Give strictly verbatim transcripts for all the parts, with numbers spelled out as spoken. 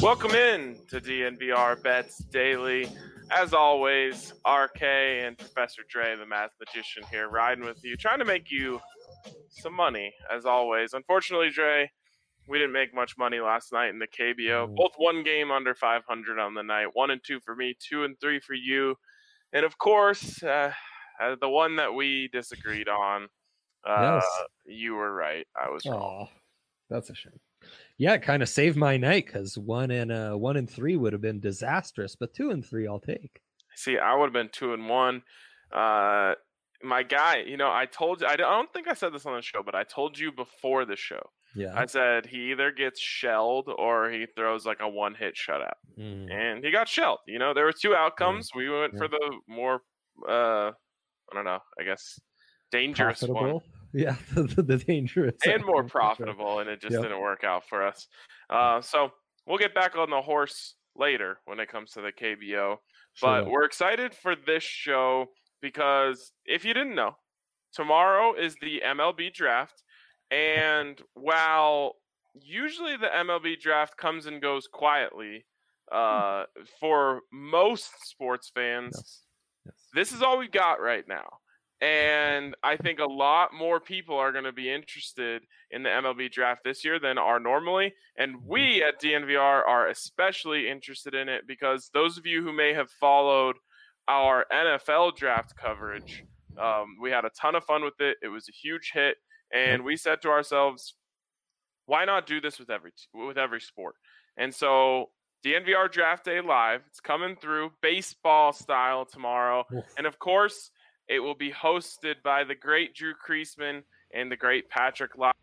Welcome in to D N V R Bets Daily. As always, R K and Professor Dre, the math magician here, riding with you, trying to make you some money, as always. Unfortunately, Dre, we didn't make much money last night in the K B O. Both one game under five hundred on the night. One and two for me, two and three for you. And, of course, uh, uh, the one that we disagreed on, uh, yes. you were right. I was wrong. Aww, that's a shame. Yeah, it kind of saved my night because one and uh, one and three would have been disastrous, but two and three I'll take. See, I would have been two and one. Uh, my guy, you know, I told you, I don't think I said this on the show, but I told you before the show. Yeah. I said he either gets shelled or he throws like a one-hit shutout. Mm. And he got shelled. You know, there were two outcomes. Yeah. We went yeah. for the more, uh, I don't know, I guess, dangerous profitable. one. Yeah, the, the dangerous. And more profitable, and it just yep. didn't work out for us. Uh, so we'll get back on the horse later when it comes to the K B O. But sure. We're excited for this show because if you didn't know, tomorrow is the M L B draft. And while usually the M L B draft comes and goes quietly uh, for most sports fans, yes. Yes. This is all we got right now. And I think a lot more people are going to be interested in the M L B draft this year than are normally. And we at D N V R are especially interested in it because those of you who may have followed our N F L draft coverage, um, we had a ton of fun with it. It was a huge hit. And we said to ourselves, why not do this with every with every sport? And so D N V R Draft Day Live, it's coming through baseball style tomorrow. Oof. And of course, it will be hosted by the great Drew Creasman and the great Patrick Lyle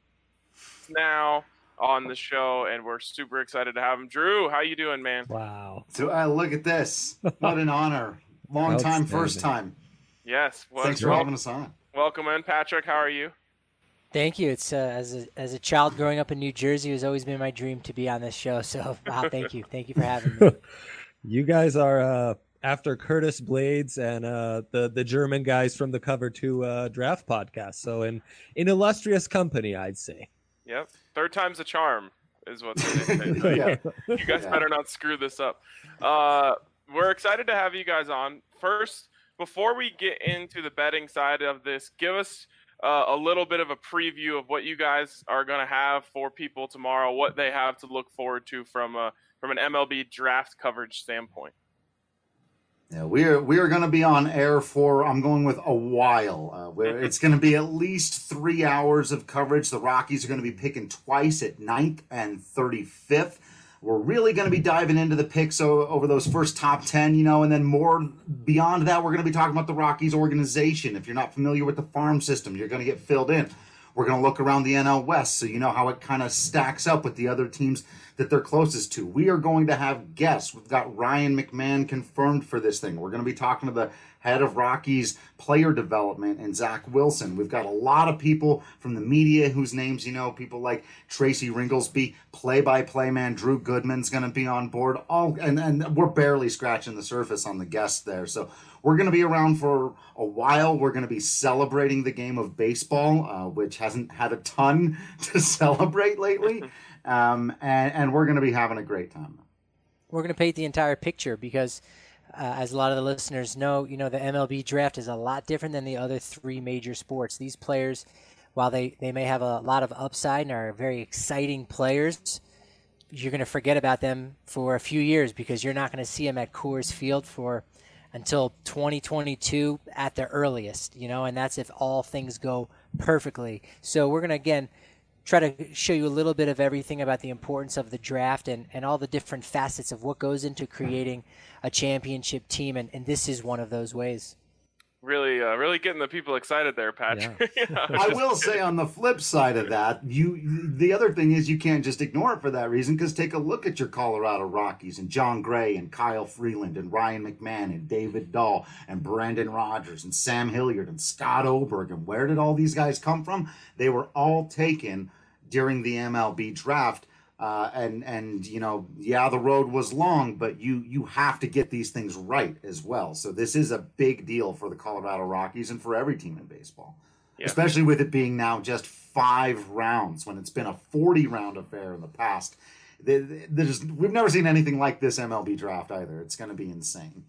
now on the show, and we're super excited to have him. Drew, how you doing, man? Wow. So uh, look at this. What an honor. Long time, first time. Yes. Well, Thanks for well, having us on. Welcome in, Patrick. How are you? Thank you. It's uh, as a as a child growing up in New Jersey, it has always been my dream to be on this show. So, wow, thank you. Thank you for having me. You guys are uh, after Curtis Blades and uh, the the German guys from the Cover Two uh, Draft podcast. So, in in illustrious company, I'd say. Yep, third time's a charm is what they say. Yeah. You guys yeah. better not screw this up. Uh, we're excited to have you guys on. First, before we get into the betting side of this, give us Uh, a little bit of a preview of what you guys are going to have for people tomorrow, what they have to look forward to from a, from an M L B draft coverage standpoint. Yeah, we are we are going to be on air for, I'm going with a while. Uh, where it's going to be at least three hours of coverage. The Rockies are going to be picking twice at ninth and thirty-fifth. We're really going to be diving into the picks over those first top ten, you know, and then more beyond that, we're going to be talking about the Rockies organization. If you're not familiar with the farm system, you're going to get filled in. We're going to look around the N L West so you know how it kind of stacks up with the other teams that they're closest to. We are going to have guests. We've got Ryan McMahon confirmed for this thing. We're going to be talking to the head of Rockies player development and Zach Wilson. We've got a lot of people from the media whose names you know, people like Tracy Ringlesby, play-by-play man Drew Goodman's going to be on board. All and, and we're barely scratching the surface on the guests there. So we're going to be around for a while. We're going to be celebrating the game of baseball, uh, which hasn't had a ton to celebrate lately. Um, and, and we're going to be having a great time. We're going to paint the entire picture because Uh, as a lot of the listeners know, you know, the M L B draft is a lot different than the other three major sports. These players, while they, they may have a lot of upside and are very exciting players, you're going to forget about them for a few years because you're not going to see them at Coors Field for until twenty twenty-two at the earliest, you know, and that's if all things go perfectly. So we're going to, again, try to show you a little bit of everything about the importance of the draft and, and all the different facets of what goes into creating a championship team, and, and this is one of those ways. Really, uh, really getting the people excited there, Patrick. Yeah. I will say on the flip side of that, you the other thing is you can't just ignore it for that reason, because take a look at your Colorado Rockies and John Gray and Kyle Freeland and Ryan McMahon and David Dahl and Brandon Rogers and Sam Hilliard and Scott Oberg. And where did all these guys come from? They were all taken during the M L B draft. Uh, and, and you know, yeah, the road was long, but you you have to get these things right as well. So this is a big deal for the Colorado Rockies and for every team in baseball, yeah. Especially with it being now just five rounds when it's been a forty-round affair in the past. there's we've never seen anything like this M L B draft either. It's going to be insane.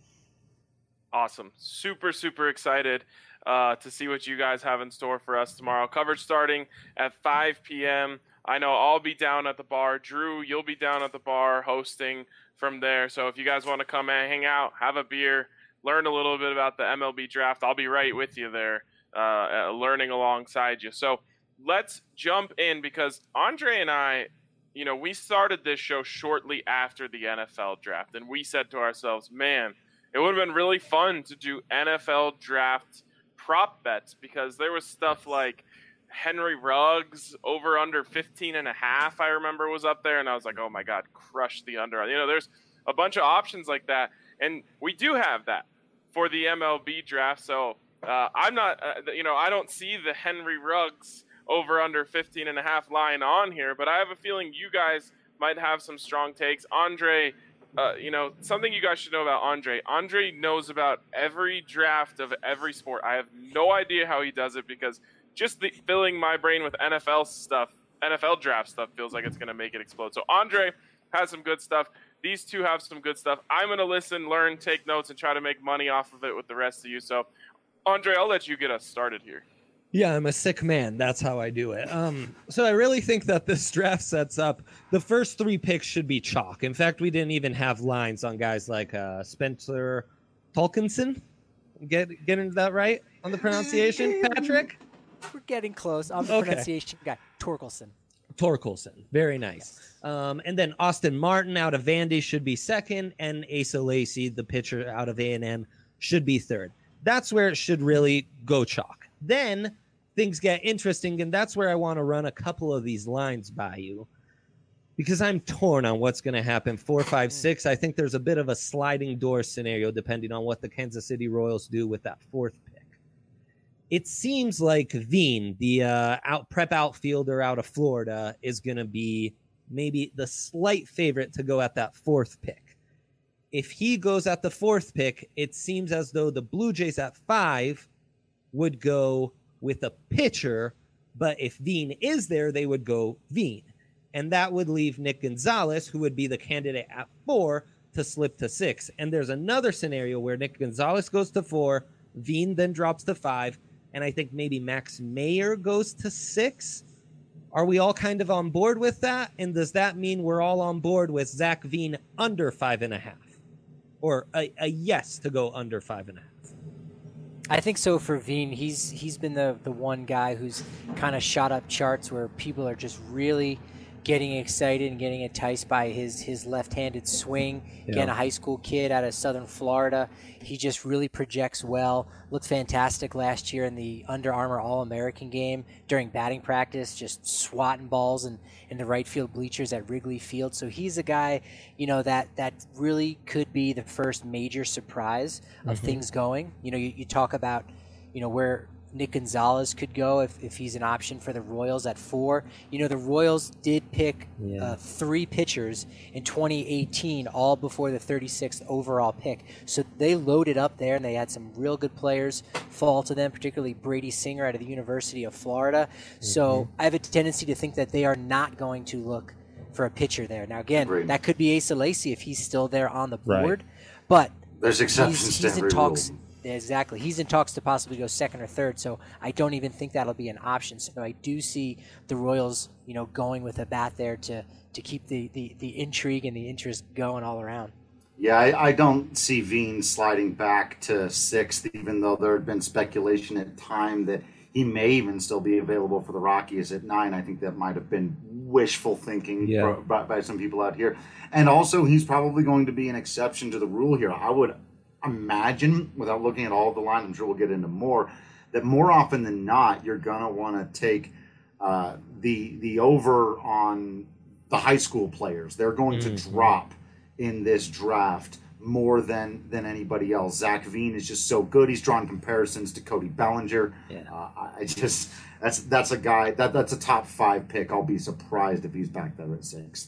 Awesome. Super, super excited uh, to see what you guys have in store for us tomorrow. Coverage starting at five p.m. I know I'll be down at the bar. Drew, you'll be down at the bar hosting from there. So if you guys want to come and hang out, have a beer, learn a little bit about the M L B draft, I'll be right with you there, uh, learning alongside you. So let's jump in because Andre and I, you know, we started this show shortly after the N F L draft, and we said to ourselves, man, it would have been really fun to do N F L draft prop bets because there was stuff like Henry Ruggs over under fifteen and a half, I remember was up there. And I was like, oh my God, crush the under. You know, there's a bunch of options like that. And we do have that for the M L B draft. So uh, I'm not, uh, you know, I don't see the Henry Ruggs over under fifteen and a half line on here, but I have a feeling you guys might have some strong takes. Andre, uh, you know, something you guys should know about Andre. Andre knows about every draft of every sport. I have no idea how he does it because just the, filling my brain with N F L stuff, N F L draft stuff feels like it's going to make it explode. So Andre has some good stuff. These two have some good stuff. I'm going to listen, learn, take notes, and try to make money off of it with the rest of you. So, Andre, I'll let you get us started here. Yeah, I'm a sick man. That's how I do it. Um, so I really think that this draft sets up the first three picks should be chalk. In fact, we didn't even have lines on guys like uh, Spencer Torkelson. Get get into that right on the pronunciation, Patrick? We're getting close. I'm the okay. pronunciation guy. Torkelson. Torkelson. Very nice. Um, and then Austin Martin out of Vandy should be second, and Asa Lacy, the pitcher out of A and M, should be third. That's where it should really go chalk. Then things get interesting, and that's where I want to run a couple of these lines by you because I'm torn on what's going to happen. Four, five, six. I think there's a bit of a sliding door scenario depending on what the Kansas City Royals do with that fourth pick. It seems like Veen, the uh, out prep outfielder out of Florida, is going to be maybe the slight favorite to go at that fourth pick. If he goes at the fourth pick, it seems as though the Blue Jays at five would go with a pitcher, but if Veen is there, they would go Veen. And that would leave Nick Gonzalez, who would be the candidate at four, to slip to six. And there's another scenario where Nick Gonzalez goes to four, Veen then drops to five, and I think maybe Max Meyer goes to six. Are we all kind of on board with that? And does that mean we're all on board with Zach Veen under five and a half? Or a, a yes to go under five and a half? I think so for Veen. He's he's been the, the one guy who's kind of shot up charts where people are just really getting excited and getting enticed by his, his left-handed swing. Yeah. Again, a high school kid out of Southern Florida. He just really projects well. Looked fantastic last year in the Under Armour All-American game during batting practice, just swatting balls in, in the right field bleachers at Wrigley Field. So he's a guy, you know, that, that really could be the first major surprise of mm-hmm. things going. You know, you, you talk about, you know, where Nick Gonzalez could go if, if he's an option for the Royals at four. You know, the Royals did pick yeah. uh, three pitchers in twenty eighteen, all before the thirty-sixth overall pick. So they loaded up there, and they had some real good players fall to them, particularly Brady Singer out of the University of Florida. Mm-hmm. So I have a tendency to think that they are not going to look for a pitcher there. Now, again, Great. that could be Asa Lacy if he's still there on the board. Right. But there's exceptions he's, to he's every in talks. rule. Exactly. He's in talks to possibly go second or third, so I don't even think that'll be an option. So I do see the Royals, you know, going with a bat there to, to keep the, the, the intrigue and the interest going all around. Yeah, I, I don't see Veen sliding back to sixth, even though there had been speculation at time that he may even still be available for the Rockies at nine. I think that might have been wishful thinking yeah. for, by, by some people out here. And also, he's probably going to be an exception to the rule here. I would imagine, without looking at all of the lines, I'm sure we'll get into more, that more often than not, you're going to want to take uh, the the over on the high school players. They're going mm-hmm. to drop in this draft more than than anybody else. Zach Veen is just so good. He's drawn comparisons to Cody Bellinger. Yeah. Uh, I just that's that's a guy that that's a top five pick. I'll be surprised if he's back there at six.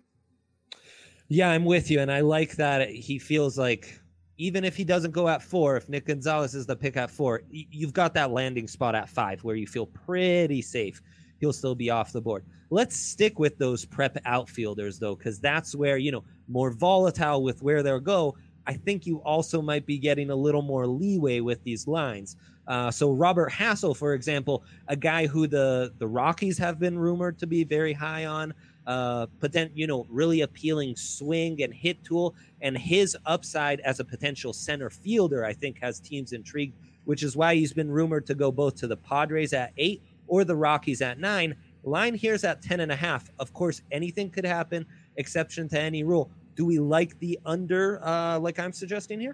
Yeah, I'm with you, and I like that he feels like, even if he doesn't go at four, if Nick Gonzalez is the pick at four, you've got that landing spot at five where you feel pretty safe. he'll still be off the board. Let's stick with those prep outfielders, though, because that's where, you know, more volatile with where they'll go. I think you also might be getting a little more leeway with these lines. Uh, so Robert Hassell, for example, a guy who the, the Rockies have been rumored to be very high on, uh, potent, you know, really appealing swing and hit tool, and his upside as a potential center fielder, I think, has teams intrigued, which is why he's been rumored to go both to the Padres at eight or the Rockies at nine. Line here's at ten and a half. Of course, anything could happen, exception to any rule. Do we like the under, uh, like I'm suggesting here?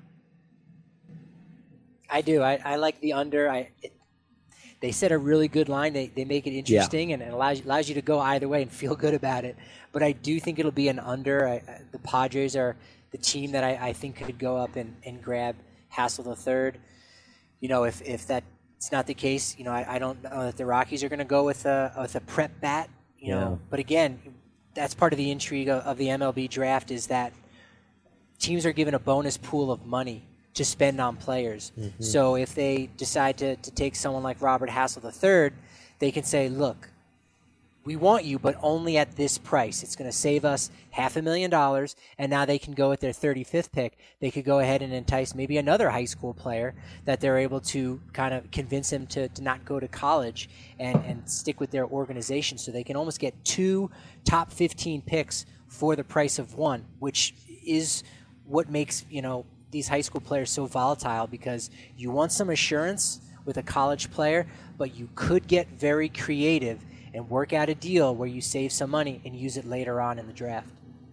I do. I, I like the under. I it, they set a really good line. They they make it interesting, yeah. and it allows allows you to go either way and feel good about it. But I do think it'll be an under. I, I, the Padres are the team that I, I think could go up and, and grab Hassell the third. You know, if if that's not the case, you know, I, I don't know that the Rockies are going to go with a with a prep bat. You yeah. know, but again, that's part of the intrigue of, of the M L B draft is that teams are given a bonus pool of money to spend on players. Mm-hmm. So if they decide to, to take someone like Robert Hassell the third, they can say, look, we want you, but only at this price. It's going to save us half a million dollars, and now they can go with their thirty-fifth pick. They could go ahead and entice maybe another high school player that they're able to kind of convince him to, to not go to college and, and stick with their organization. So they can almost get two top fifteen picks for the price of one, which is what makes, you know, these high school players so volatile, because you want some assurance with a college player, but you could get very creative and work out a deal where you save some money and use it later on in the draft.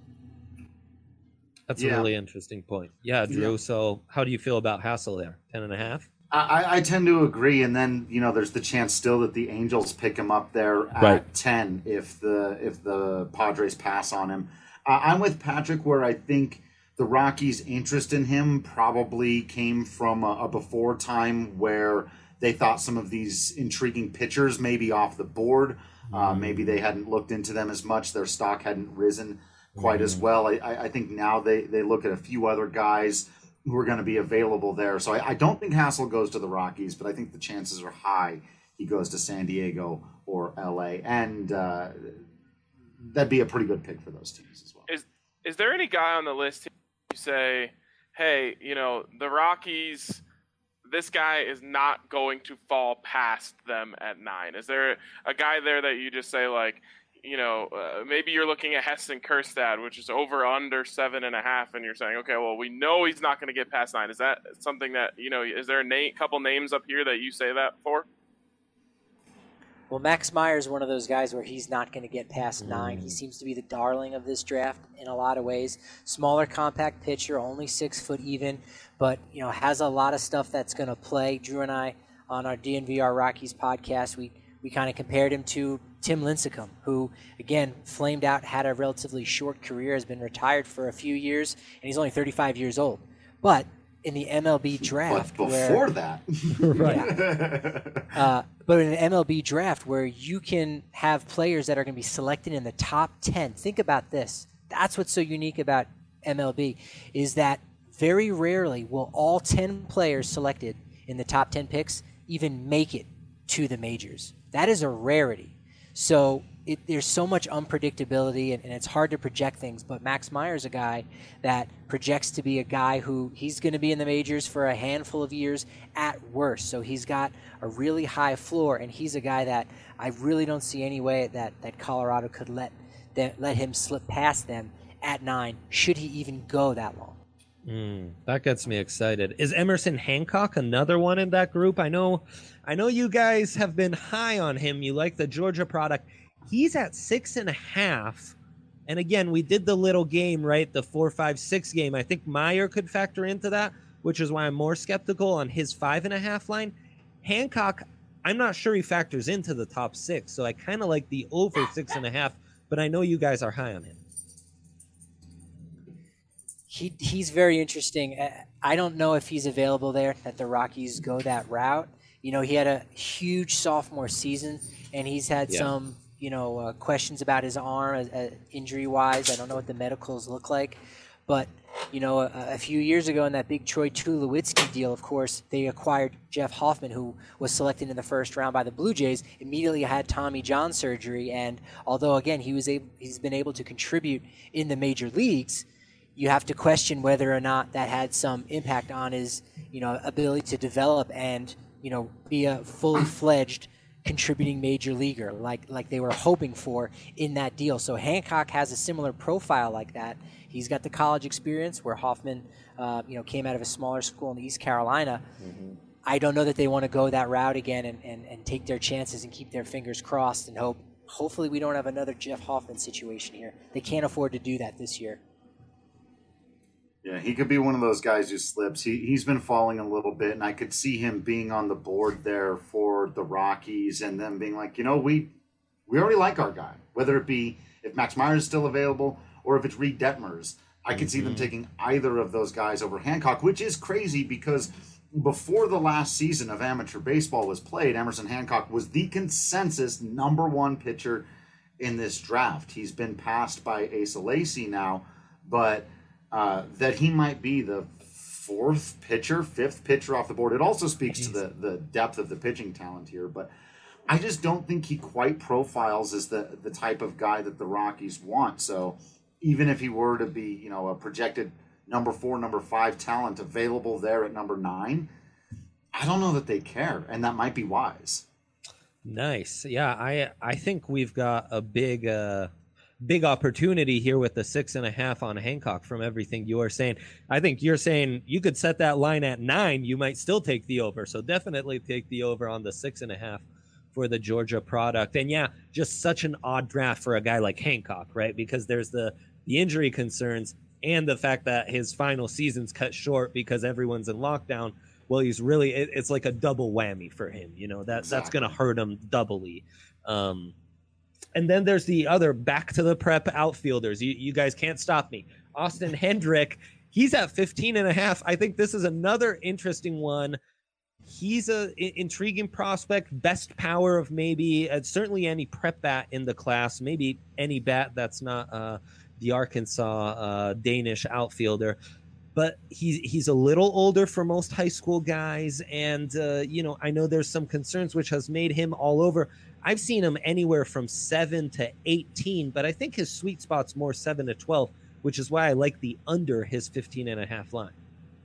That's yeah. a really interesting point. Yeah, Drew. Yeah. So how do you feel about Hassell there? Ten and a half? I, I tend to agree. And then, you know, there's the chance still that the Angels pick him up there at right. ten if the, if the Padres pass on him. Uh, I'm with Patrick where I think the Rockies' interest in him probably came from a, a before time where they thought some of these intriguing pitchers may be off the board. Uh, maybe they hadn't looked into them as much. Their stock hadn't risen quite mm. as well. I, I think now they, they look at a few other guys who are going to be available there. So I, I don't think Hassell goes to the Rockies, but I think the chances are high he goes to San Diego or L A. And uh, that'd be a pretty good pick for those teams as well. Is, is there any guy on the list you say, hey, you know, the Rockies, this guy is not going to fall past them at nine? Is there a guy there that you just say, like, you know, uh, maybe you're looking at Heston Kjerstad, which is over under seven and a half, and you're saying, okay, well, we know he's not going to get past nine. Is that something that, you know, is there a na- couple names up here that you say that for? Well, Max Meyer is one of those guys where he's not going to get past nine. He seems to be the darling of this draft in a lot of ways. Smaller, compact pitcher, only six foot even, but, you know, has a lot of stuff that's going to play. Drew and I on our D N V R Rockies podcast, we, we kind of compared him to Tim Lincecum, who, again, flamed out, had a relatively short career, has been retired for a few years, and he's only thirty-five years old. But in the M L B draft, but before where, that, right? uh, but in an M L B draft where you can have players that are going to be selected in the top ten. Think about this. That's what's so unique about M L B, is that very rarely will all ten players selected in the top ten picks even make it to the majors. That is a rarity. So it, there's so much unpredictability, and, and it's hard to project things. But Max Meyer is a guy that projects to be a guy who he's going to be in the majors for a handful of years at worst. So he's got a really high floor, and he's a guy that I really don't see any way that, that Colorado could let them, let him slip past them at nine, should he even go that long. Mm, that gets me excited. Is Emerson Hancock another one in that group? I know, I know you guys have been high on him. You like the Georgia product. He's at six and a half. And again, we did the little game, right? The four, five, six game. I think Meyer could factor into that, which is why I'm more skeptical on his five and a half line. Hancock, I'm not sure he factors into the top six. So I kind of like the over six and a half, but I know you guys are high on him. He he's very interesting. I don't know if he's available there, that the Rockies go that route. You know, he had a huge sophomore season, and he's had yeah. some, you know, uh, questions about his arm uh, injury-wise. I don't know what the medicals look like. But You know, a, a few years ago in that big Troy Tulowitzki deal, of course, they acquired Jeff Hoffman, who was selected in the first round by the Blue Jays, immediately had Tommy John surgery. And although, again, he was able, he's been able to contribute in the major leagues, you have to question whether or not that had some impact on his, you know, ability to develop and, you know, be a fully fledged contributing major leaguer like like they were hoping for in that deal. So Hancock has a similar profile like that. He's got the college experience where Hoffman, uh, you know, came out of a smaller school in East Carolina. Mm-hmm. I don't know that they want to go that route again and, and, and take their chances and keep their fingers crossed and hope. Hopefully we don't have another Jeff Hoffman situation here. They can't afford to do that this year. Yeah, he could be one of those guys who slips. He, he's been falling a little bit, and I could see him being on the board there for the Rockies and them being like, you know, we we already like our guy, whether it be if Max Meyer is still available or if it's Reed Detmers. I could mm-hmm. see them taking either of those guys over Hancock, which is crazy because before the last season of amateur baseball was played, Emerson Hancock was the consensus number one pitcher in this draft. He's been passed by Asa Lacy now, but Uh, that he might be the fourth pitcher, fifth pitcher off the board. It also speaks Jeez. to the, the depth of the pitching talent here, but I just don't think he quite profiles as the, the type of guy that the Rockies want. So even if he were to be, you know, a projected number four, number five talent available there at number nine, I don't know that they care, and that might be wise. Nice. Yeah, I I think we've got a big uh big opportunity here with the six and a half on Hancock from everything you are saying. I think you're saying you could set that line at nine. You might still take the over. So definitely take the over on the six and a half for the Georgia product. And yeah, just such an odd draft for a guy like Hancock, right? Because there's the, the injury concerns and the fact that his final season's cut short because everyone's in lockdown. Well, he's really, it, it's like a double whammy for him. You know, that exactly. that's going to hurt him doubly. Um, And then there's the other back to the prep outfielders. You, you guys can't stop me. Austin Hendrick, he's at fifteen and a half. I think this is another interesting one. He's a I- intriguing prospect, best power of maybe uh, certainly any prep bat in the class, maybe any bat that's not uh, the Arkansas uh, Danish outfielder. But he's he's a little older for most high school guys, and uh, you know I know there's some concerns which has made him all over. I've seen him anywhere from seven to eighteen, but I think his sweet spot's more seven to twelve, which is why I like the under his fifteen and a half line.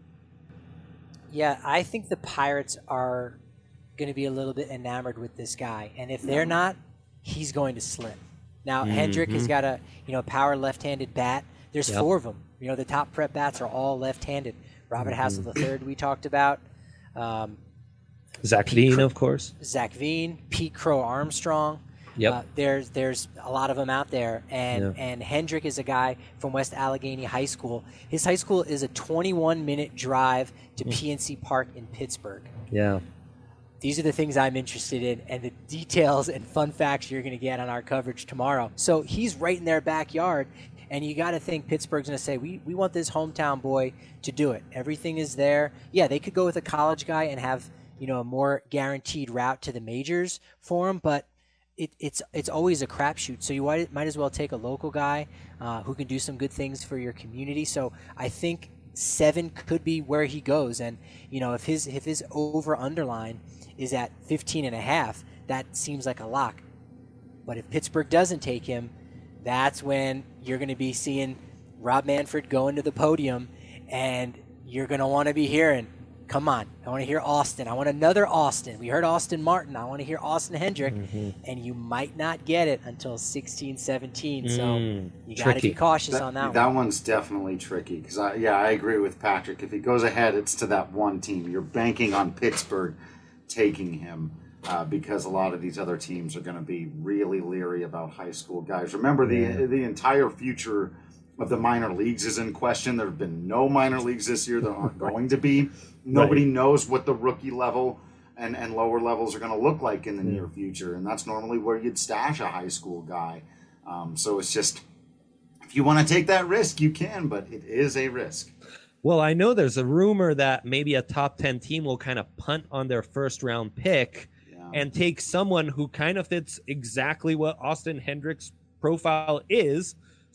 Yeah, I think the Pirates are going to be a little bit enamored with this guy, and if they're not, he's going to slip. Now, mm-hmm. Hendrick has got a you know power left-handed bat. There's yep. four of them. You know, the top prep bats are all left-handed. Robert mm-hmm. Hassel the third we talked about. Um, Zach Pete Veen, Cro- of course. Zach Veen, Pete Crow Armstrong. Yep. Uh, there's there's a lot of them out there, and yeah. and Hendrick is a guy from West Allegheny High School. His high school is a twenty-one minute drive to mm. P N C Park in Pittsburgh. Yeah. These are the things I'm interested in, and the details and fun facts you're going to get on our coverage tomorrow. So he's right in their backyard, and you got to think Pittsburgh's going to say, we we want this hometown boy to do it. Everything is there. Yeah, they could go with a college guy and have, you know, a more guaranteed route to the majors for him, but it, it's it's always a crapshoot. So you might, might as well take a local guy uh, who can do some good things for your community. So I think seven could be where he goes, and you know, if his if his over underline is at fifteen and a half, that seems like a lock. But if Pittsburgh doesn't take him, that's when you're going to be seeing Rob Manfred going to the podium, and you're going to want to be hearing, come on, I want to hear Austin. I want another Austin. We heard Austin Martin. I want to hear Austin Hendrick. Mm-hmm. And you might not get it until sixteen, seventeen. So mm, you got to be cautious that, on that, that one. That one's definitely tricky because, I, yeah, I agree with Patrick. If he goes ahead, it's to that one team. You're banking on Pittsburgh taking him uh, because a lot of these other teams are going to be really leery about high school guys. Remember, the yeah. the entire future of the minor leagues is in question. There have been no minor leagues this year. There aren't going to be. Nobody right. knows what the rookie level and, and lower levels are going to look like in the yeah. near future, and that's normally where you'd stash a high school guy. Um, so it's just, if you want to take that risk, you can, but it is a risk. Well, I know there's a rumor that maybe a top ten team will kind of punt on their first round pick yeah. and take someone who kind of fits exactly what Austin Hendrick's profile is.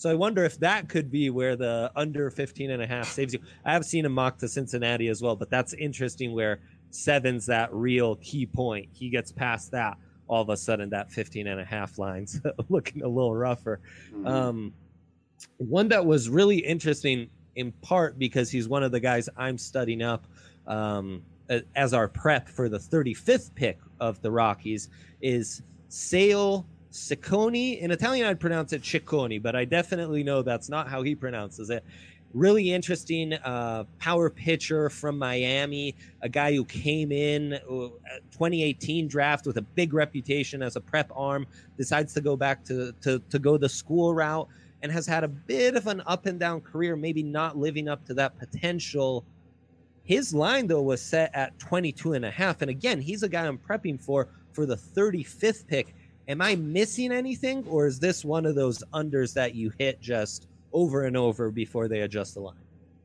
So I wonder if that could be where the under fifteen and a half saves you. I have seen him mock to Cincinnati as well, but that's interesting where seven's that real key point. He gets past that, all of a sudden that fifteen and a half line's looking a little rougher. Mm-hmm. Um, one that was really interesting in part because he's one of the guys I'm studying up um, as our prep for the thirty-fifth pick of the Rockies is Sale Ciccone. In Italian, I'd pronounce it Ciccone, but I definitely know that's not how he pronounces it. Really interesting uh, power pitcher from Miami, a guy who came in uh, twenty eighteen draft with a big reputation as a prep arm, decides to go back to, to, to go the school route, and has had a bit of an up and down career, maybe not living up to that potential. His line, though, was set at twenty-two and a half. And again, he's a guy I'm prepping for for the thirty-fifth pick. Am I missing anything, or is this one of those unders that you hit just over and over before they adjust the line?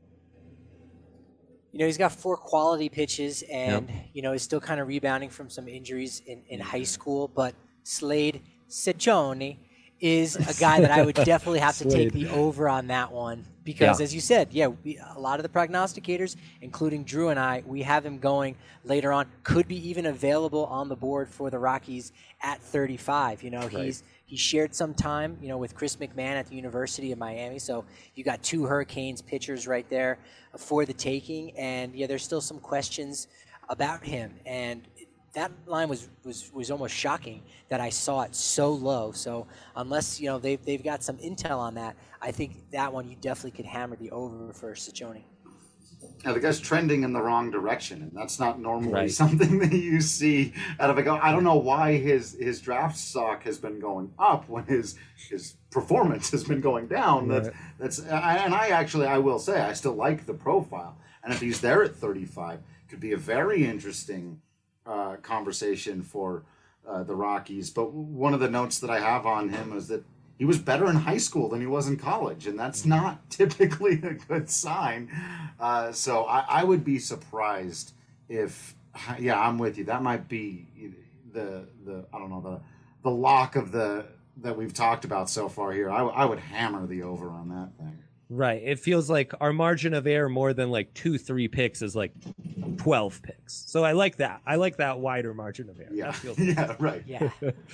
You know, he's got four quality pitches, and, yep. you know, he's still kind of rebounding from some injuries in, in high school. But Slade Ciccone is a guy that I would definitely have to take the over on that one. Because, yeah. as you said, yeah, we, a lot of the prognosticators, including Drew and I, we have him going later on. Could be even available on the board for the Rockies at thirty-five. You know, right. he's he shared some time, you know, with Chris McMahon at the University of Miami. So you got two Hurricanes pitchers right there for the taking. And, yeah, there's still some questions about him. And that line was, was, was almost shocking that I saw it so low. So unless, you know, they've, they've got some intel on that, I think that one you definitely could hammer the over for Ciccone. Yeah, the guy's trending in the wrong direction, and that's not normally right. something that you see out of a guy. I don't know why his, his draft stock has been going up when his his performance has been going down. Right. That's that's and I actually I will say I still like the profile, and if he's there at thirty-five, could be a very interesting uh, conversation for uh, the Rockies. But one of the notes that I have on him is that he was better in high school than he was in college, and that's not typically a good sign. Uh, so I, I would be surprised if, yeah, I'm with you. That might be the the I don't know the the lock of the that we've talked about so far here. I, I would hammer the over on that thing. Right. It feels like our margin of error more than like two, three picks is like twelve picks. So I like that. I like that wider margin of error. Yeah. That feels yeah. Right. Yeah.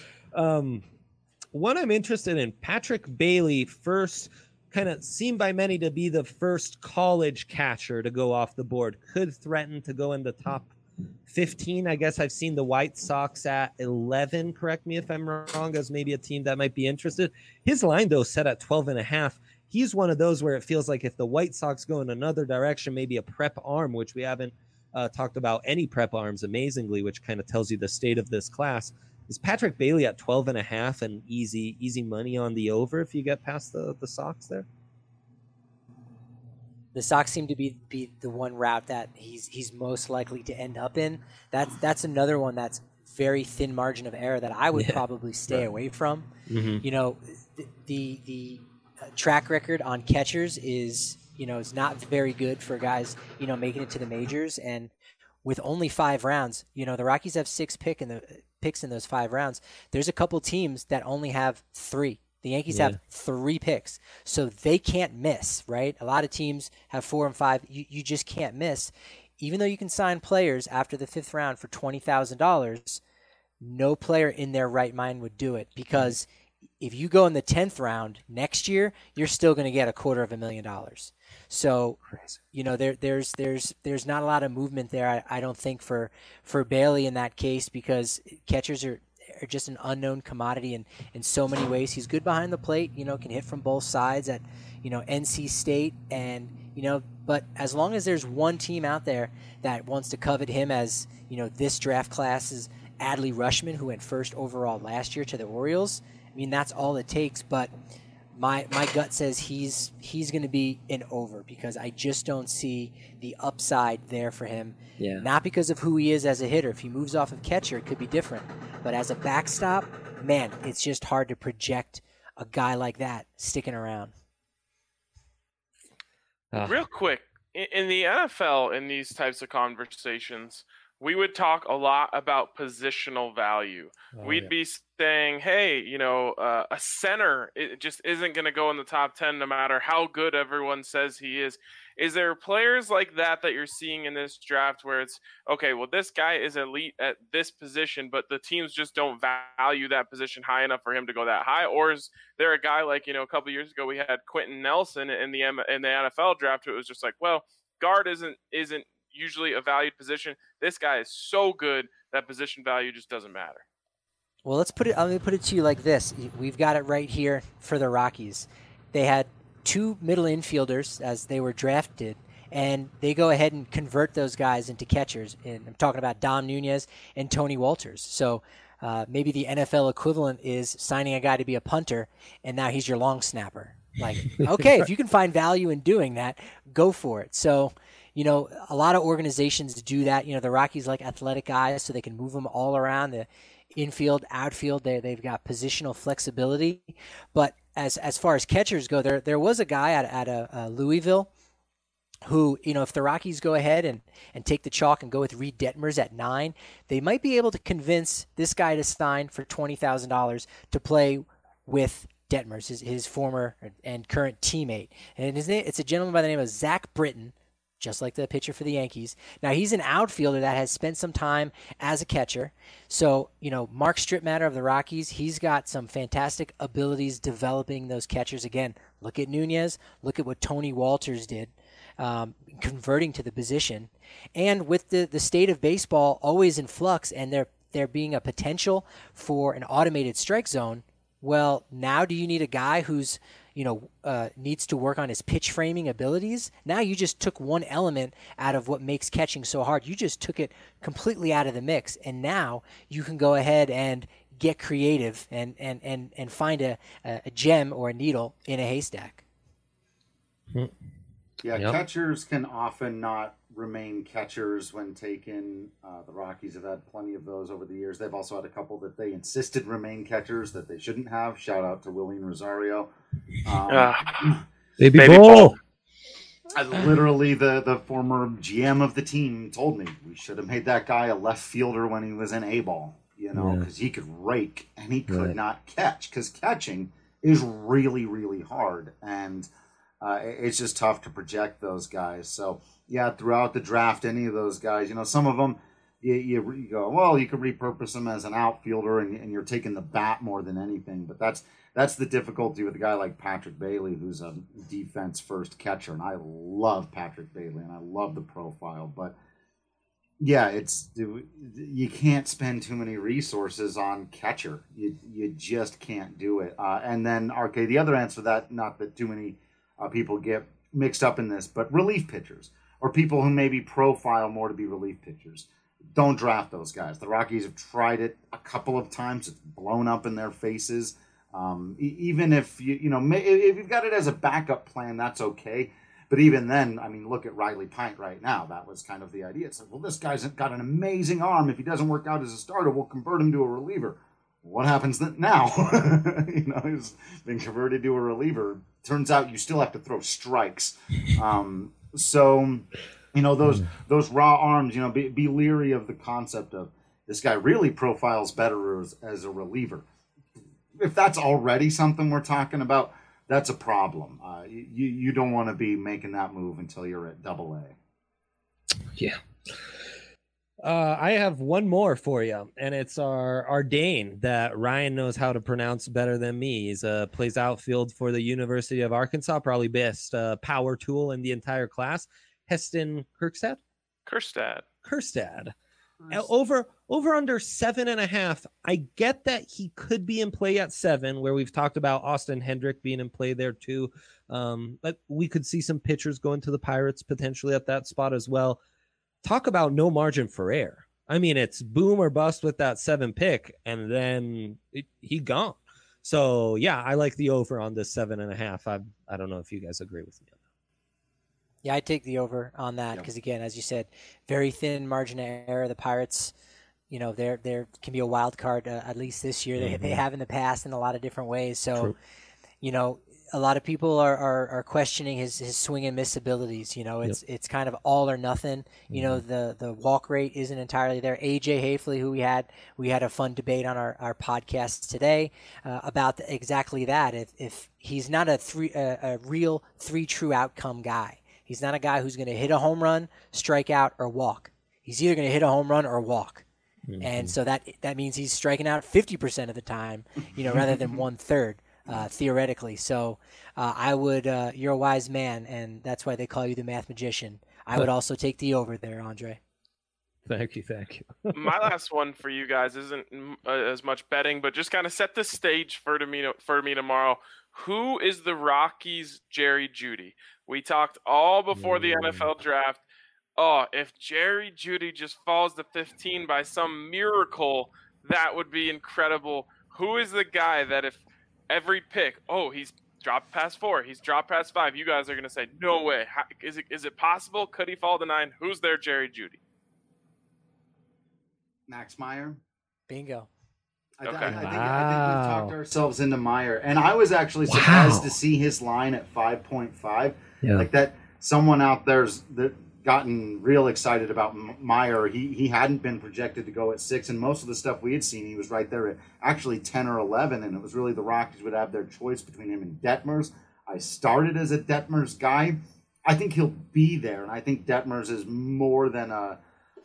um. One I'm interested in, Patrick Bailey, first kind of seen by many to be the first college catcher to go off the board, could threaten to go in the top fifteen. I guess I've seen the White Sox at eleven, correct me if I'm wrong, as maybe a team that might be interested. His line, though, set at twelve and a half. He's one of those where it feels like if the White Sox go in another direction, maybe a prep arm, which we haven't uh, talked about any prep arms, amazingly, which kind of tells you the state of this class. Is Patrick Bailey at twelve and a half and easy easy money on the over if you get past the, the Sox there? The Sox seem to be, be the one route that he's he's most likely to end up in. That's that's another one that's very thin margin of error that I would yeah. probably stay right. away from. Mm-hmm. You know, the the, the track record on catchers is you know is not very good for guys you know making it to the majors, and with only five rounds, you know the Rockies have six pick in the picks in those five rounds. There's a couple teams that only have three. The Yankees yeah. have three picks, so they can't miss, right? A lot of teams have four and five. You, you just can't miss. Even though you can sign players after the fifth round for twenty thousand dollars, no player in their right mind would do it, because if you go in the tenth round next year, you're still going to get a quarter of a million dollars. So, you know, there, there's there's there's not a lot of movement there, I, I don't think, for, for Bailey in that case, because catchers are, are just an unknown commodity in, in so many ways. He's good behind the plate, you know, can hit from both sides at, you know, N C State. And, you know, but as long as there's one team out there that wants to covet him as, you know, this draft class is Adley Rutschman, who went first overall last year to the Orioles, I mean, that's all it takes. But My my gut says he's he's going to be an over, because I just don't see the upside there for him. Yeah. Not because of who he is as a hitter. If he moves off of catcher, it could be different. But as a backstop, man, it's just hard to project a guy like that sticking around. Uh. Real quick, in, in the N F L, in these types of conversations, we would talk a lot about positional value. Oh, We'd yeah. be saying, hey, you know, uh, a center it just isn't going to go in the top ten no matter how good everyone says he is. Is there players like that that you're seeing in this draft where it's, okay, well, this guy is elite at this position, but the teams just don't value that position high enough for him to go that high? Or is there a guy like, you know, a couple years ago we had Quentin Nelson in the in the N F L draft who it was just like, well, guard isn't isn't usually a valued position. This guy is so good that position value just doesn't matter. Well, let's put it, let me put it to you like this. We've got it right here for the Rockies. They had two middle infielders as they were drafted, and they go ahead and convert those guys into catchers. And I'm talking about Dom Nunez and Tony Walters. So uh, maybe the N F L equivalent is signing a guy to be a punter, and now he's your long snapper. Like, okay, if you can find value in doing that, go for it. So, you know, a lot of organizations do that. You know, the Rockies like athletic guys, so they can move them all around the infield, outfield. They they've got positional flexibility. But as as far as catchers go, there there was a guy at at a, a Louisville who, you know, if the Rockies go ahead and, and take the chalk and go with Reed Detmers at nine, they might be able to convince this guy to sign for twenty thousand dollars to play with Detmers, his, his former and current teammate. And his name, it's a gentleman by the name of Zach Britton, just like the pitcher for the Yankees. Now, he's an outfielder that has spent some time as a catcher. So, you know, Mark Stripmatter of the Rockies, he's got some fantastic abilities developing those catchers. Again, look at Nunez. Look at what Tony Walters did, um, converting to the position. And with the, the state of baseball always in flux and there, there being a potential for an automated strike zone, well, now do you need a guy who's, you know, uh, needs to work on his pitch framing abilities? Now you just took one element out of what makes catching so hard. You just took it completely out of the mix, and now you can go ahead and get creative and and and, and find a, a gem or a needle in a haystack. Yeah, yep. Catchers can often not remain catchers when taken. Uh, the Rockies have had plenty of those over the years. They've also had a couple that they insisted remain catchers that they shouldn't have. Shout out to Willian Rosario. Um, uh, baby, baby ball. I, literally, the, the former G M of the team told me we should have made that guy a left fielder when he was in A-ball, you know, because yeah. he could rake and he could right. not catch, because catching is really, really hard. And uh, it's just tough to project those guys. So, yeah, throughout the draft, any of those guys, you know, some of them, you, you, you go, well, you could repurpose them as an outfielder, and, and you're taking the bat more than anything. But that's that's the difficulty with a guy like Patrick Bailey, who's a defense-first catcher. And I love Patrick Bailey, and I love the profile. But, yeah, it's you can't spend too many resources on catcher. You, you just can't do it. Uh, and then, okay, the other answer to that, not that too many uh, people get mixed up in this, but relief pitchers, or people who maybe profile more to be relief pitchers. Don't draft those guys. The Rockies have tried it a couple of times. It's blown up in their faces. Um, e- even if you you know if you've got it as a backup plan, that's okay. But even then, I mean, look at Riley Pint right now. That was kind of the idea. It's like, well, this guy's got an amazing arm. If he doesn't work out as a starter, we'll convert him to a reliever. What happens now? you know, he's been converted to a reliever. Turns out you still have to throw strikes. Um, so, you know, those those raw arms, you know, be, be leery of the concept of this guy really profiles better as, as a reliever. If that's already something we're talking about, that's a problem. Uh, you, you don't want to be making that move until you're at double A. Yeah. Uh, I have one more for you, and it's our, our Dane that Ryan knows how to pronounce better than me. He's uh, plays outfield for the University of Arkansas, probably best uh, power tool in the entire class. Heston Kjerstad? Kjerstad. Kjerstad. Over over under seven and a half. I get that he could be in play at seven, where we've talked about Austin Hendrick being in play there too. Um, but we could see some pitchers going to the Pirates potentially at that spot as well. Talk about no margin for error. I mean, it's boom or bust with that seven pick, and then it, he gone. So yeah, I like the over on this seven and a half. I I don't know if you guys agree with me on that. Yeah, I take the over on that because, again, as you said, very thin margin of error. The Pirates, you know, they're they can be a wild card uh, at least this year. They mm-hmm. they have in the past in a lot of different ways. So, True. you know, a lot of people are, are, are questioning his, his swing and miss abilities. You know, it's yep. it's kind of all or nothing. You mm-hmm. know, the the walk rate isn't entirely there. A J Hafley, who we had we had a fun debate on our, our podcast today uh, about the, exactly that. If if he's not a three a, a real three true outcome guy, he's not a guy who's going to hit a home run, strike out, or walk. He's either going to hit a home run or walk. Mm-hmm. And so that that means he's striking out fifty percent of the time, you know, rather than one third. Uh, theoretically. So uh, I would, uh, you're a wise man, and that's why they call you the math magician. I would also take the over there, Andre. Thank you, thank you. My last one for you guys isn't uh, as much betting, but just kind of set the stage for, to me, for me tomorrow. Who is the Rockies' Jerry Jeudy? We talked all before the N F L draft. Oh, if Jerry Jeudy just falls to fifteen by some miracle, that would be incredible. Who is the guy that if every pick, oh, he's dropped past four, he's dropped past five, you guys are going to say, no way. How, is it is it possible? Could he fall to nine? Who's there, Jerry Jeudy? Max Meyer. Bingo. I, okay. I, I, think, wow. I think we've talked ourselves into Meyer. And I was actually surprised wow. to see his line at five point five. Yeah. Like that, someone out there's that gotten real excited about Meyer. He he hadn't been projected to go at six, and most of the stuff we had seen, he was right there at actually ten or eleven, and it was really the Rockies would have their choice between him and Detmers. I started as a Detmers guy. I think he'll be there, and I think Detmers is more than a,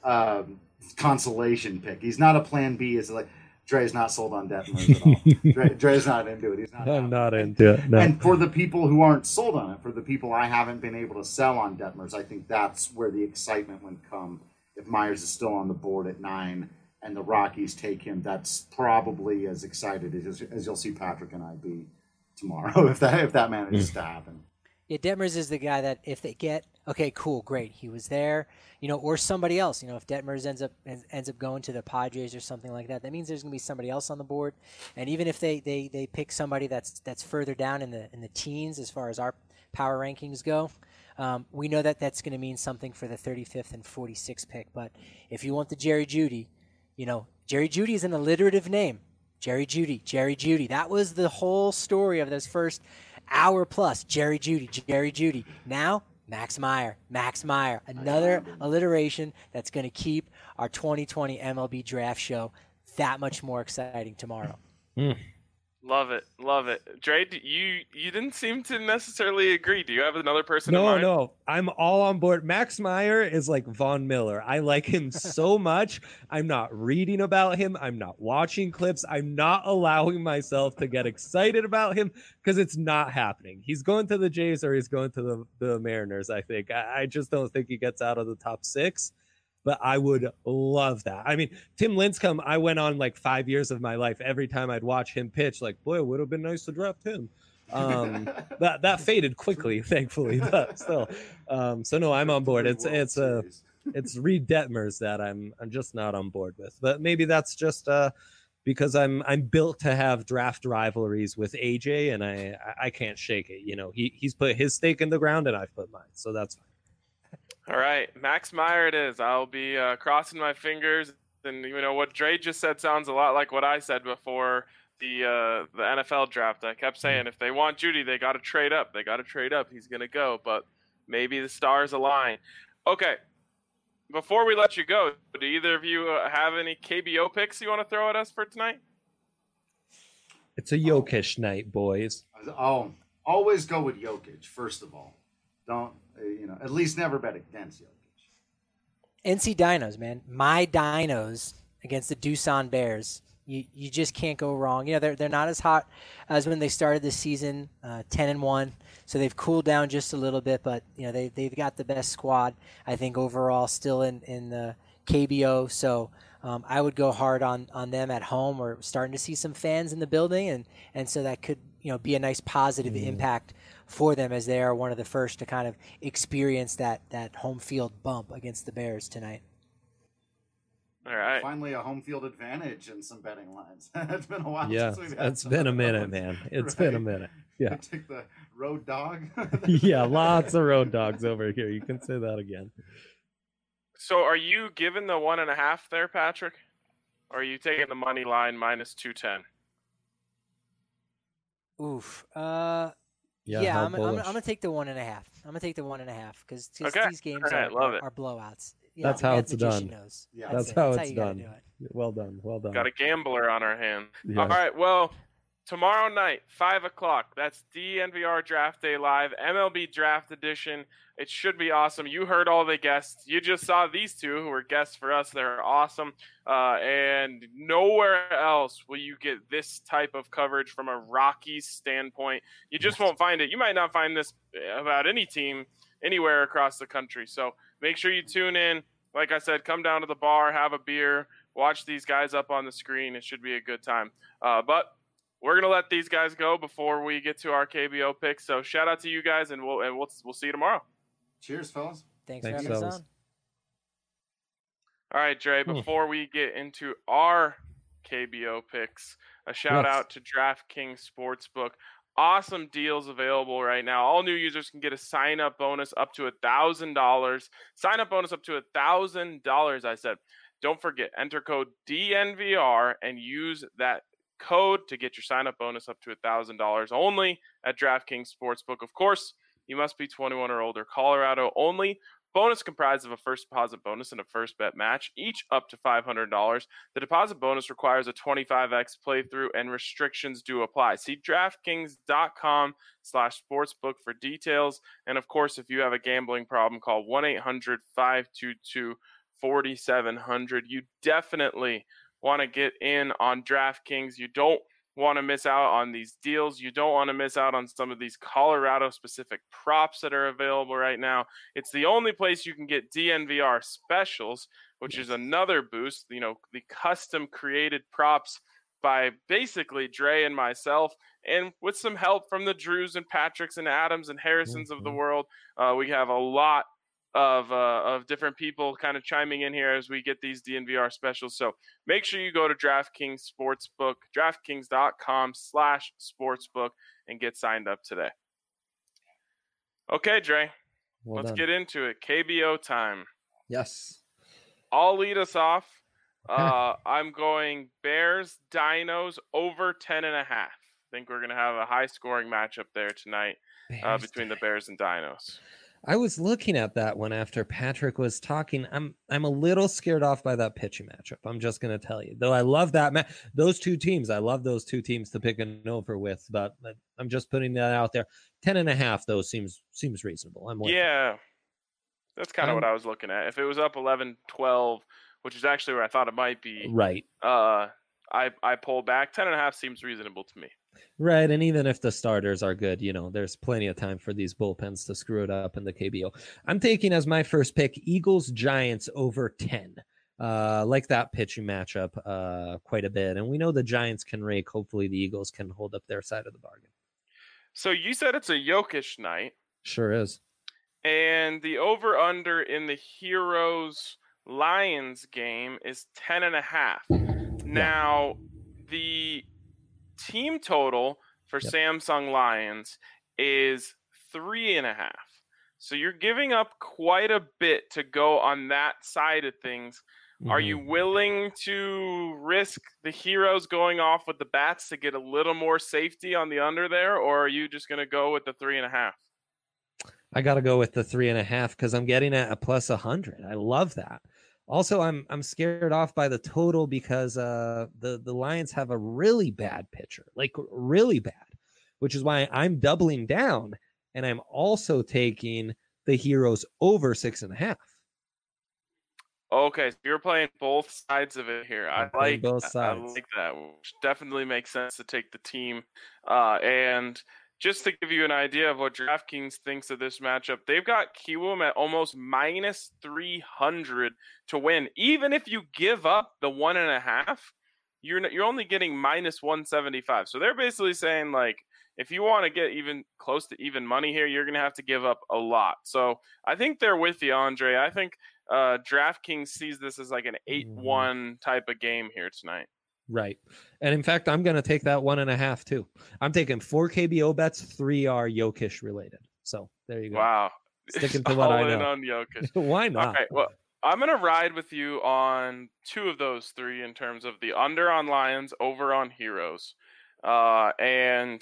a consolation pick. He's not a plan B. It's like Dre's not sold on Detmers at all. Dre, Dre's not into it. He's not. I'm not into it. No. And for the people who aren't sold on it, for the people I haven't been able to sell on Detmers, I think that's where the excitement would come. If Myers is still on the board at nine and the Rockies take him, that's probably as excited as, as you'll see Patrick and I be tomorrow if that if that manages mm. to happen. Yeah, Detmers is the guy that if they get, okay, cool, great, he was there, you know, or somebody else, you know, if Detmers ends up ends up going to the Padres or something like that, that means there's going to be somebody else on the board. And even if they, they, they pick somebody that's that's further down in the in the teens as far as our power rankings go, um, we know that that's going to mean something for the thirty-fifth and forty-sixth pick. But if you want the Jerry Jeudy, you know, Jerry Jeudy is an alliterative name. Jerry Jeudy, Jerry Jeudy. That was the whole story of those first hour plus. Jerry Jeudy, Jerry Jeudy. Now, Max Meyer, Max Meyer. Another alliteration that's going to keep our twenty twenty M L B draft show that much more exciting tomorrow. Mm. Love it, love it. Dre, you you didn't seem to necessarily agree. Do you have another person no, in mind? No, no. I'm all on board. Max Meyer is like Von Miller. I like him so much. I'm not reading about him. I'm not watching clips. I'm not allowing myself to get excited about him because it's not happening. He's going to the Jays or he's going to the, the Mariners, I think. I, I just don't think he gets out of the top six. But I would love that. I mean, Tim Lincecum, I went on like five years of my life. Every time I'd watch him pitch, like, boy, it would have been nice to draft him. Um, that that faded quickly, thankfully, but still. Um, so no, I'm on board. It's it's a uh, it's Reed Detmers that I'm I'm just not on board with. But maybe that's just uh, because I'm I'm built to have draft rivalries with A J, and I I can't shake it. You know, he he's put his stake in the ground, and I've put mine, so that's fine. All right, Max Meyer it is. I'll be uh, crossing my fingers. And, you know, what Dre just said sounds a lot like what I said before the uh, the N F L draft. I kept saying if they want Jeudy, they got to trade up. They got to trade up. He's going to go. But maybe the stars align. Okay, before we let you go, do either of you uh, have any K B O picks you want to throw at us for tonight? It's a Jokic oh. night, boys. Oh, always go with Jokic, first of all. Don't. You know, at least never bet against Jokic. N C Dinos, man. My Dinos against the Doosan Bears. You you just can't go wrong. You know, they're they're not as hot as when they started the season, uh, ten and one. So they've cooled down just a little bit, but you know they they've got the best squad I think overall still in in the K B O. So um, I would go hard on on them at home. We're starting to see some fans in the building, and and so that could you know be a nice positive mm. impact for them as they are one of the first to kind of experience that that home field bump against the Bears tonight. All right. Finally, a home field advantage and some betting lines. It's been a while yeah, since we've had it's been a minute, man. It's right? been a minute. Yeah. Take the road dog. Yeah, lots of road dogs over here. You can say that again. So are you giving the one and a half there, Patrick? Or are you taking the money line minus two ten? Oof. Uh Yeah, yeah I'm, I'm, I'm gonna take the one and a half. I'm gonna take the one and a half because okay. these games right, are, are, are blowouts. Yeah, that's how it's done. Knows. Yeah, that's, that's how that's it's how done. Do it. Well done, well done. Got a gambler on our hand. Yes. All right, well, tomorrow night, five o'clock. That's D N V R Draft Day Live, M L B Draft Edition. It should be awesome. You heard all the guests. You just saw these two who were guests for us. They're awesome. Uh, and nowhere else will you get this type of coverage from a Rockies standpoint. You just yes. won't find it. You might not find this about any team anywhere across the country. So make sure you tune in. Like I said, come down to the bar, have a beer, watch these guys up on the screen. It should be a good time. Uh, but we're gonna let these guys go before we get to our K B O picks. So shout out to you guys, and we'll and we'll we'll see you tomorrow. Cheers, fellas. Thanks, Thanks for having us on. All right, Dre. Before we get into our K B O picks, a shout yes. out to DraftKings Sportsbook. Awesome deals available right now. All new users can get a sign-up bonus up to one thousand dollars. Sign-up bonus up to one thousand dollars, I said. Don't forget, enter code D N V R and use that code to get your sign-up bonus up to one thousand dollars only at DraftKings Sportsbook. Of course, you must be twenty-one or older. Colorado only. Bonus comprised of a first deposit bonus and a first bet match, each up to five hundred dollars. The deposit bonus requires a twenty-five x playthrough, and restrictions do apply. See DraftKings.com slash sportsbook for details. And, of course, if you have a gambling problem, call one eight hundred five two two four seven zero zero. You definitely want to get in on DraftKings. You don't want to miss out on these deals. You don't want to miss out on some of these Colorado specific props that are available right now. It's the only place you can get D N V R specials, which yes. is another boost. You know, the custom created props by basically Dre and myself, and with some help from the Drews and Patricks and Adams and Harrisons mm-hmm. of the world. Uh, we have a lot of uh, of different people kind of chiming in here as we get these D N V R specials. So make sure you go to DraftKings Sportsbook, DraftKings.com slash sportsbook, and get signed up today. Okay, Dre, well let's done. get into it. K B O time. Yes. I'll lead us off. Uh, I'm going Bears, Dinos over ten and a half. I think we're going to have a high scoring matchup there tonight uh, between the Bears and Dinos. I was looking at that one after Patrick was talking. I'm I'm a little scared off by that pitching matchup. I'm just going to tell you. Though I love that ma- those two teams. I love those two teams to pick an over with, but I'm just putting that out there. ten and a half though seems seems reasonable. I'm Yeah. That's kind of what I was looking at. If it was up eleven twelve, which is actually where I thought it might be. Right. Uh I I pulled back. ten and a half seems reasonable to me. Right, and even if the starters are good, you know, there's plenty of time for these bullpens to screw it up in the K B O. I'm taking as my first pick Eagles Giants over ten. Uh, like that pitching matchup uh, quite a bit, and we know the Giants can rake. Hopefully, the Eagles can hold up their side of the bargain. So you said it's a Jokic night. Sure is. And the over under in the Heroes Lions game is ten and a half. Now, yeah. the team total for yep. Samsung Lions is three and a half. So you're giving up quite a bit to go on that side of things. Mm-hmm. Are you willing to risk the Heroes going off with the bats to get a little more safety on the under there, or are you just going to go with the three and a half? I got to go with the three and a half because I'm getting at a plus a hundred. I love that. Also, I'm I'm scared off by the total because uh, the, the Lions have a really bad pitcher, like really bad, which is why I'm doubling down, and I'm also taking the Heroes over six and a half. Okay, so you're playing both sides of it here. I like both sides. I like that. Which definitely makes sense to take the team. Uh, and just to give you an idea of what DraftKings thinks of this matchup, they've got Kiwoom at almost minus three hundred to win. Even if you give up the one and a half, you're you're only getting minus one seventy-five. So they're basically saying, like, if you want to get even close to even money here, you're going to have to give up a lot. So I think they're with you, Andre. I think uh, DraftKings sees this as like an eight one type of game here tonight. Right. And in fact, I'm going to take that one and a half too. I'm taking four K B O bets, three are Jokic related. So there you go. Wow. Sticking to what All I know. in on Jokic. Why not? Okay, well, I'm going to ride with you on two of those three in terms of the under on Lions, over on Heroes. Uh, and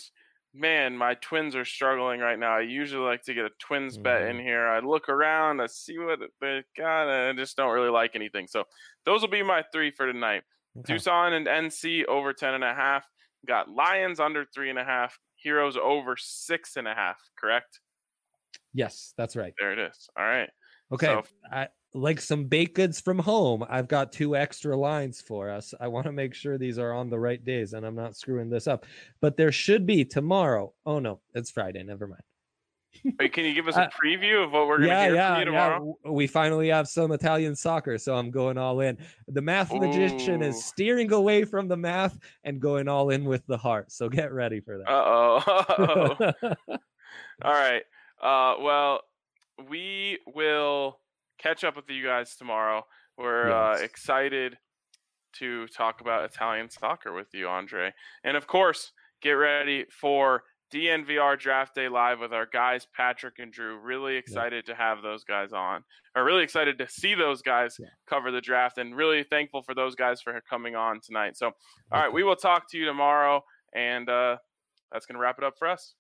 man, my Twins are struggling right now. I usually like to get a Twins mm-hmm. bet in here. I look around, I see what they got, and I just don't really like anything. So those will be my three for tonight. Okay. Tucson and N C over ten and a half. Got Lions under three and a half. Heroes over six and a half. Correct? Yes, that's right. There it is. All right. Okay. So, I like some baked goods from home. I've got two extra lines for us. I want to make sure these are on the right days and I'm not screwing this up. But there should be tomorrow. Oh no, it's Friday. Never mind. Wait, can you give us a preview of what we're going to yeah, hear yeah, from you tomorrow? Yeah. We finally have some Italian soccer, so I'm going all in. The math Ooh. magician is steering away from the math and going all in with the heart. So get ready for that. Uh-oh. All right. Uh, well, we will catch up with you guys tomorrow. We're yes. uh, excited to talk about Italian soccer with you, Andre. And of course, get ready for D N V R Draft Day Live with our guys, Patrick and Drew. Really excited yeah. to have those guys on. Or really excited to see those guys yeah. cover the draft, and really thankful for those guys for coming on tonight. So, all right, we will talk to you tomorrow, and uh, that's going to wrap it up for us.